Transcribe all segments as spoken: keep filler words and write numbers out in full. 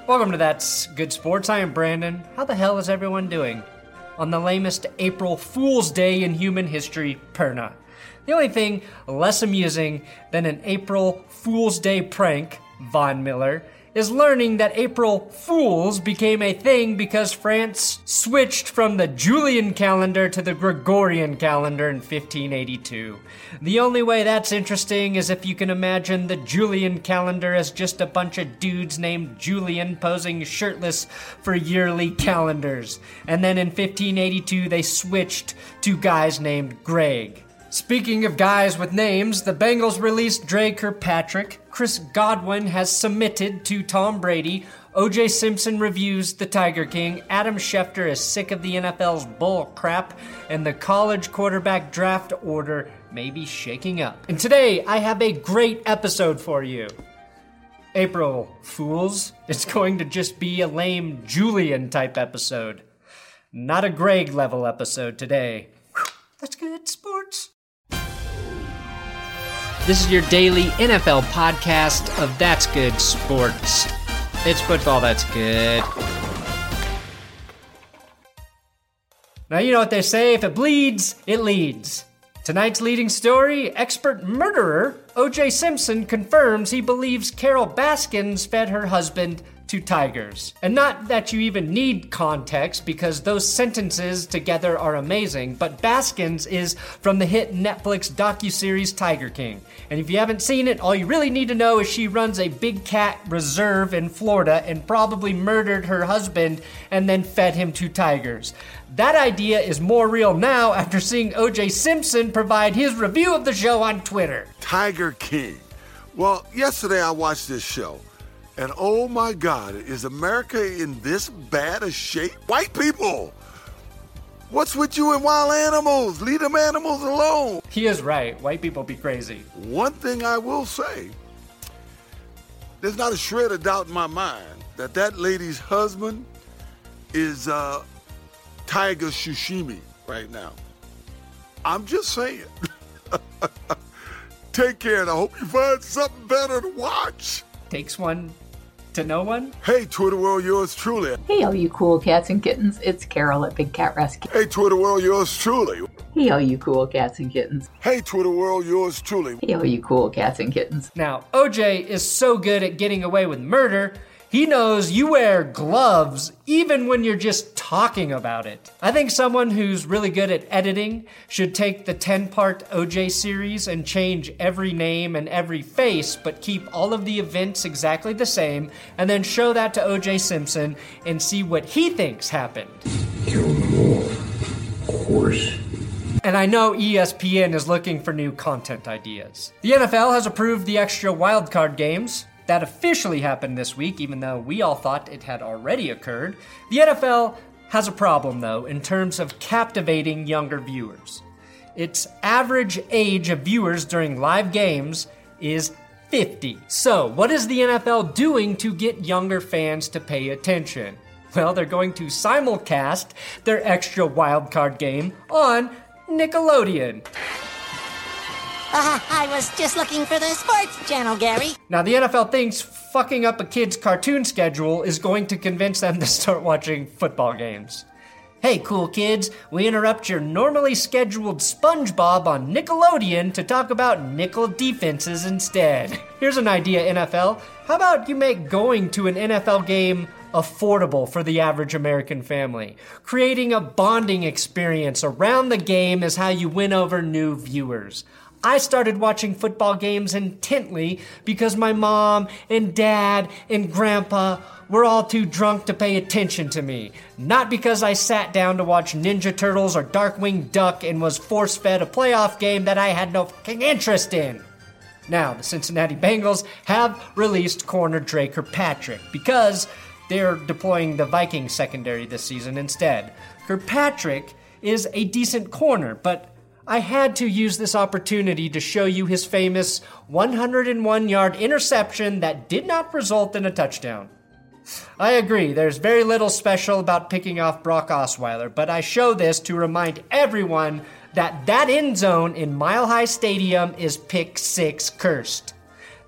Welcome to That's Good Sports. I am Brandon. How the hell is everyone doing on the lamest April Fool's Day in human history, Perna? The only thing less amusing than an April Fool's Day prank, Von Miller, is learning that April Fools became a thing because France switched from the Julian calendar to the Gregorian calendar in fifteen eighty-two. The only way that's interesting is if you can imagine the Julian calendar as just a bunch of dudes named Julian posing shirtless for yearly calendars. And then in fifteen eighty-two they switched to guys named Greg. Speaking of guys with names, the Bengals released Dre Kirkpatrick, Chris Godwin has submitted to Tom Brady, O J Simpson reviews The Tiger King, Adam Schefter is sick of the N F L's bull crap, and the college quarterback draft order may be shaking up. And today, I have a great episode for you. April Fools, it's going to just be a lame Julian type episode. Not a Greg level episode today. Whew, that's good sports. This is your daily N F L podcast of That's Good Sports. It's football that's good. Now, you know what they say, if it bleeds, it leads. Tonight's leading story, expert murderer O J Simpson confirms he believes Carol Baskins fed her husband to tigers. And not that you even need context, because those sentences together are amazing, but Baskins is from the hit Netflix docuseries Tiger King. And if you haven't seen it, all you really need to know is she runs a big cat reserve in Florida and probably murdered her husband and then fed him to tigers. That idea is more real now after seeing O J Simpson provide his review of the show on Twitter. Tiger King. Well, yesterday I watched this show. And oh my God, is America in this bad a shape? White people! What's with you and wild animals? Leave them animals alone. He is right. White people be crazy. One thing I will say, there's not a shred of doubt in my mind that that lady's husband is uh, tiger sashimi right now. I'm just saying. Take care, and I hope you find something better to watch. Takes one to know one. Hey, Twitter world, yours truly. Hey, all you cool cats and kittens. It's Carol at Big Cat Rescue. Hey, Twitter world, yours truly. Hey, all you cool cats and kittens. Hey, Twitter world, yours truly. Hey, all you cool cats and kittens. Now, O J is so good at getting away with murder, he knows you wear gloves even when you're just talking about it. I think someone who's really good at editing should take the ten-part O J series and change every name and every face, but keep all of the events exactly the same, and then show that to O J Simpson and see what he thinks happened. Kill them all, of course. And I know E S P N is looking for new content ideas. The N F L has approved the extra wildcard games. That officially happened this week, even though we all thought it had already occurred. The N F L has a problem, though, in terms of captivating younger viewers. Its average age of viewers during live games is fifty. So, what is the N F L doing to get younger fans to pay attention? Well, they're going to simulcast their extra wildcard game on Nickelodeon. Uh, I was just looking for the sports channel, Gary. Now, the N F L thinks fucking up a kid's cartoon schedule is going to convince them to start watching football games. Hey, cool kids, we interrupt your normally scheduled SpongeBob on Nickelodeon to talk about nickel defenses instead. Here's an idea, N F L. How about you make going to an N F L game affordable for the average American family? Creating a bonding experience around the game is how you win over new viewers. I started watching football games intently because my mom and dad and grandpa were all too drunk to pay attention to me. Not because I sat down to watch Ninja Turtles or Darkwing Duck and was force-fed a playoff game that I had no fucking interest in. Now, the Cincinnati Bengals have released corner Dre Kirkpatrick because they're deploying the Vikings secondary this season instead. Kirkpatrick is a decent corner, but I had to use this opportunity to show you his famous one hundred one yard interception that did not result in a touchdown. I agree, there's very little special about picking off Brock Osweiler, but I show this to remind everyone that that end zone in Mile High Stadium is pick six cursed. That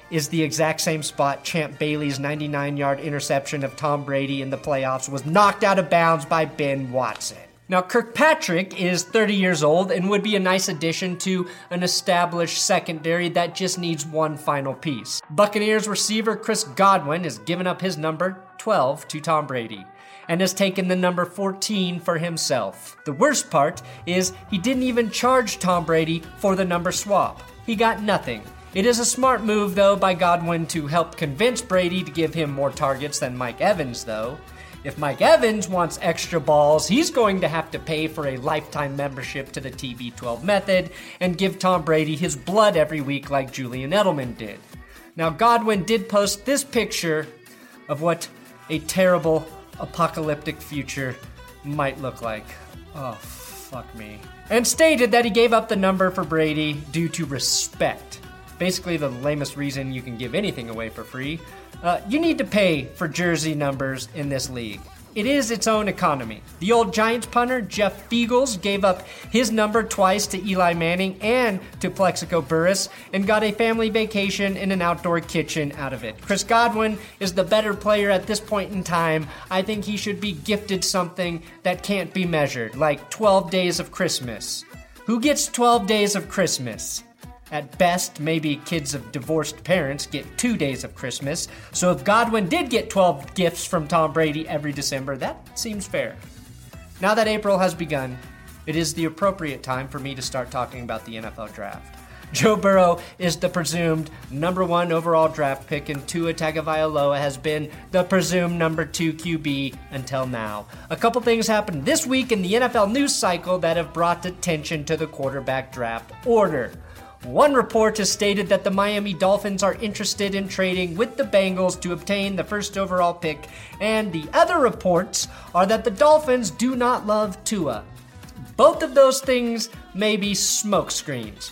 is the exact same spot Champ Bailey's ninety-nine-yard interception of Tom Brady in the playoffs was knocked out of bounds by Ben Watson. Now, Kirkpatrick is thirty years old and would be a nice addition to an established secondary that just needs one final piece. Buccaneers receiver Chris Godwin has given up his number twelve to Tom Brady and has taken the number fourteen for himself. The worst part is he didn't even charge Tom Brady for the number swap. He got nothing. It is a smart move, though, by Godwin to help convince Brady to give him more targets than Mike Evans, though. If Mike Evans wants extra balls, he's going to have to pay for a lifetime membership to the T B twelve method and give Tom Brady his blood every week like Julian Edelman did. Now, Godwin did post this picture of what a terrible apocalyptic future might look like. Oh, fuck me. And stated that he gave up the number for Brady due to respect. Basically the lamest reason you can give anything away for free. Uh, you need to pay for jersey numbers in this league. It is its own economy. The old Giants punter, Jeff Feagles, gave up his number twice to Eli Manning and to Plexico Burress and got a family vacation in an outdoor kitchen out of it. Chris Godwin is the better player at this point in time. I think he should be gifted something that can't be measured, like twelve days of Christmas. Who gets twelve days of Christmas? At best, maybe kids of divorced parents get two days of Christmas. So if Godwin did get twelve gifts from Tom Brady every December, that seems fair. Now that April has begun, it is the appropriate time for me to start talking about the N F L draft. Joe Burrow is the presumed number one overall draft pick, and Tua Tagovailoa has been the presumed number two Q B until now. A couple things happened this week in the N F L news cycle that have brought attention to the quarterback draft order. One report has stated that the Miami Dolphins are interested in trading with the Bengals to obtain the first overall pick, and the other reports are that the Dolphins do not love Tua. Both of those things may be smokescreens,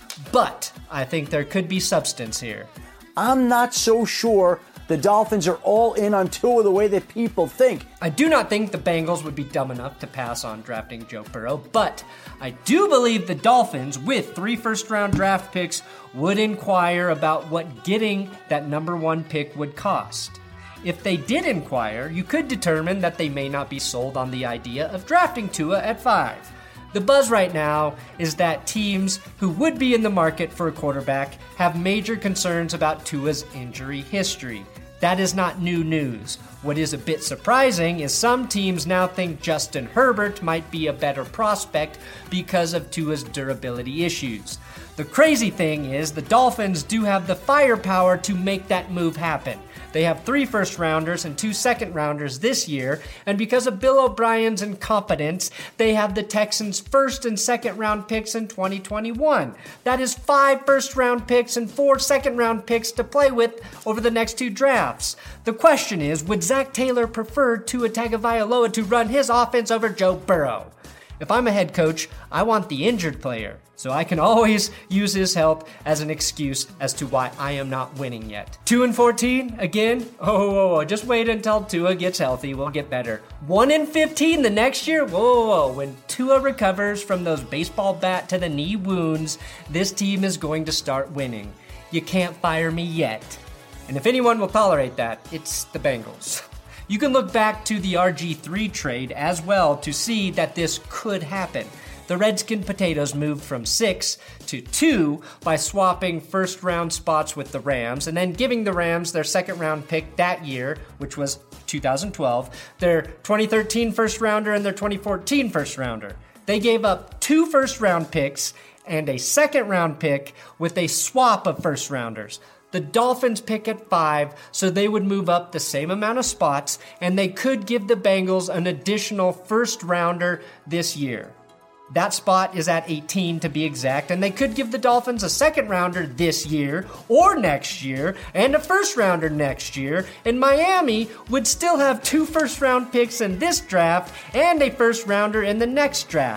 but I think there could be substance here. I'm not so sure the Dolphins are all in on Tua the way that people think. I do not think the Bengals would be dumb enough to pass on drafting Joe Burrow, but I do believe the Dolphins, with three first-round draft picks, would inquire about what getting that number one pick would cost. If they did inquire, you could determine that they may not be sold on the idea of drafting Tua at five. The buzz right now is that teams who would be in the market for a quarterback have major concerns about Tua's injury history. That is not new news. What is a bit surprising is some teams now think Justin Herbert might be a better prospect because of Tua's durability issues. The crazy thing is the Dolphins do have the firepower to make that move happen. They have three first-rounders and two second-rounders this year, and because of Bill O'Brien's incompetence, they have the Texans' first and second-round picks in twenty twenty-one. That is five first-round picks and four second-round picks to play with over the next two drafts. The question is, would Zach Taylor prefer Tua Tagovailoa to run his offense over Joe Burrow? If I'm a head coach, I want the injured player, so I can always use his help as an excuse as to why I am not winning yet. two and fourteen, again? Oh, whoa, whoa, just wait until Tua gets healthy, we'll get better. one and fifteen the next year? Whoa, whoa, whoa, when Tua recovers from those baseball bat to the knee wounds, this team is going to start winning. You can't fire me yet. And if anyone will tolerate that, it's the Bengals. You can look back to the R G three trade as well to see that this could happen. The Redskin Potatoes moved from six to two by swapping first-round spots with the Rams and then giving the Rams their second-round pick that year, which was two thousand twelve, their twenty thirteen first-rounder and their twenty fourteen first-rounder. They gave up two first-round picks and a second-round pick with a swap of first-rounders. The Dolphins pick at five, so they would move up the same amount of spots, and they could give the Bengals an additional first-rounder this year. That spot is at eighteen to be exact, and they could give the Dolphins a second-rounder this year or next year, and a first-rounder next year, and Miami would still have two first-round picks in this draft and a first-rounder in the next draft.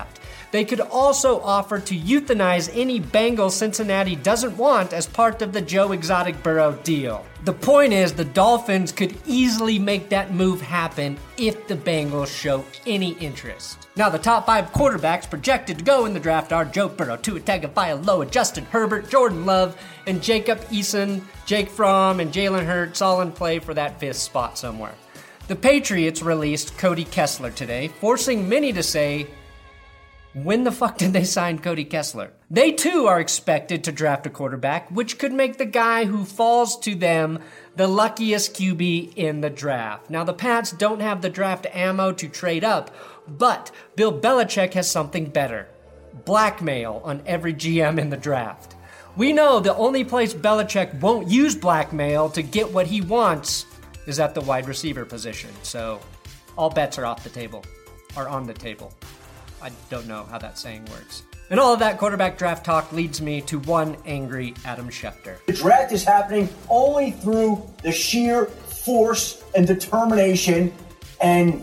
They could also offer to euthanize any Bengals Cincinnati doesn't want as part of the Joe Exotic Burrow deal. The point is, the Dolphins could easily make that move happen if the Bengals show any interest. Now, the top five quarterbacks projected to go in the draft are Joe Burrow, Tua Tagovailoa, Justin Herbert, Jordan Love, and Jacob Eason, Jake Fromm, and Jalen Hurts all in play for that fifth spot somewhere. The Patriots released Cody Kessler today, forcing many to say, when the fuck did they sign Cody Kessler? They too are expected to draft a quarterback, which could make the guy who falls to them the luckiest Q B in the draft. Now, the Pats don't have the draft ammo to trade up, but Bill Belichick has something better. Blackmail on every G M in the draft. We know the only place Belichick won't use blackmail to get what he wants is at the wide receiver position. So all bets are off the table, are on the table. I don't know how that saying works. And all of that quarterback draft talk leads me to one angry Adam Schefter. The draft is happening only through the sheer force and determination and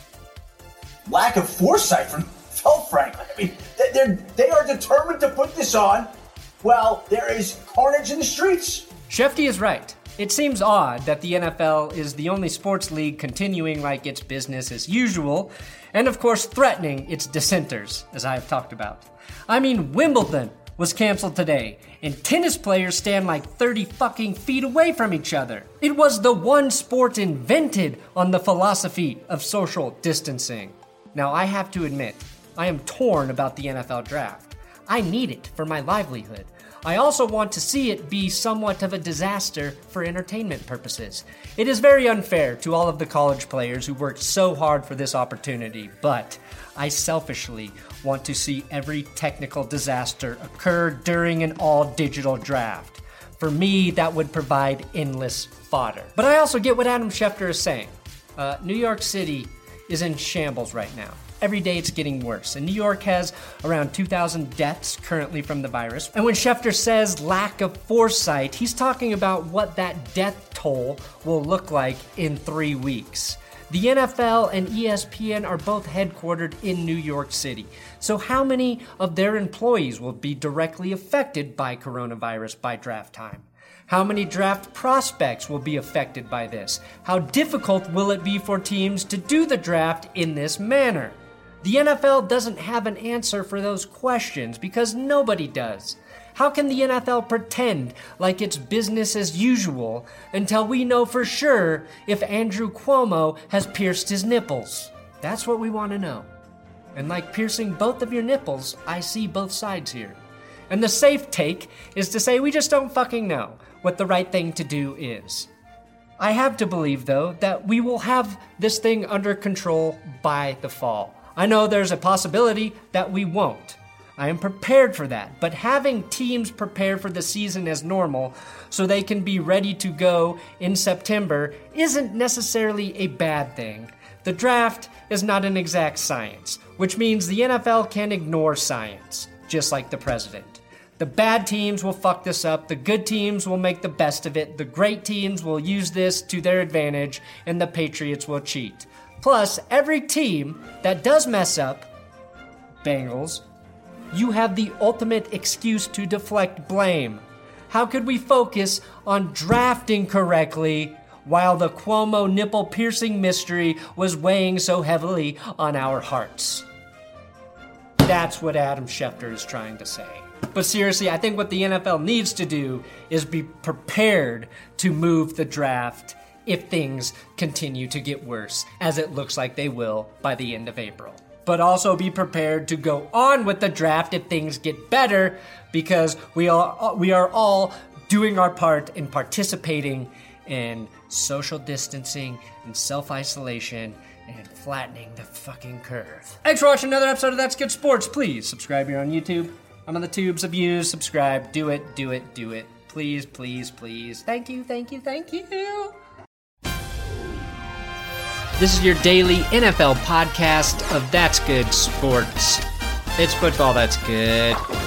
lack of foresight from Phil Franklin. I mean, they're, they are determined to put this on while there is carnage in the streets. Shefty is right. It seems odd that the N F L is the only sports league continuing like it's business as usual, and of course threatening its dissenters, as I have talked about. I mean, Wimbledon was canceled today, and tennis players stand like thirty fucking feet away from each other. It was the one sport invented on the philosophy of social distancing. Now, I have to admit, I am torn about the N F L draft. I need it for my livelihood. I also want to see it be somewhat of a disaster for entertainment purposes. It is very unfair to all of the college players who worked so hard for this opportunity, but I selfishly want to see every technical disaster occur during an all-digital draft. For me, that would provide endless fodder. But I also get what Adam Schefter is saying. Uh, New York City is in shambles right now. Every day it's getting worse, and New York has around two thousand deaths currently from the virus. And when Schefter says lack of foresight, he's talking about what that death toll will look like in three weeks. The N F L and E S P N are both headquartered in New York City. So how many of their employees will be directly affected by coronavirus by draft time? How many draft prospects will be affected by this? How difficult will it be for teams to do the draft in this manner? The N F L doesn't have an answer for those questions because nobody does. How can the N F L pretend like it's business as usual until we know for sure if Andrew Cuomo has pierced his nipples? That's what we want to know. And like piercing both of your nipples, I see both sides here. And the safe take is to say we just don't fucking know what the right thing to do is. I have to believe, though, that we will have this thing under control by the fall. I know there's a possibility that we won't. I am prepared for that, but having teams prepare for the season as normal so they can be ready to go in September isn't necessarily a bad thing. The draft is not an exact science, which means the N F L can ignore science, just like the president. The bad teams will fuck this up, the good teams will make the best of it, the great teams will use this to their advantage, and the Patriots will cheat. Plus, every team that does mess up, Bengals, you have the ultimate excuse to deflect blame. How could we focus on drafting correctly while the Cuomo nipple-piercing mystery was weighing so heavily on our hearts? That's what Adam Schefter is trying to say. But seriously, I think what the N F L needs to do is be prepared to move the draft if things continue to get worse, as it looks like they will by the end of April. But also be prepared to go on with the draft if things get better, because we are, we are all doing our part in participating in social distancing and self-isolation and flattening the fucking curve. Thanks for watching another episode of That's Good Sports. Please subscribe here on YouTube. I'm on the tubes of views. Subscribe. Do it, do it, do it. Please, please, please. Thank you, thank you, thank you. This is your daily N F L podcast of That's Good Sports. It's football that's good.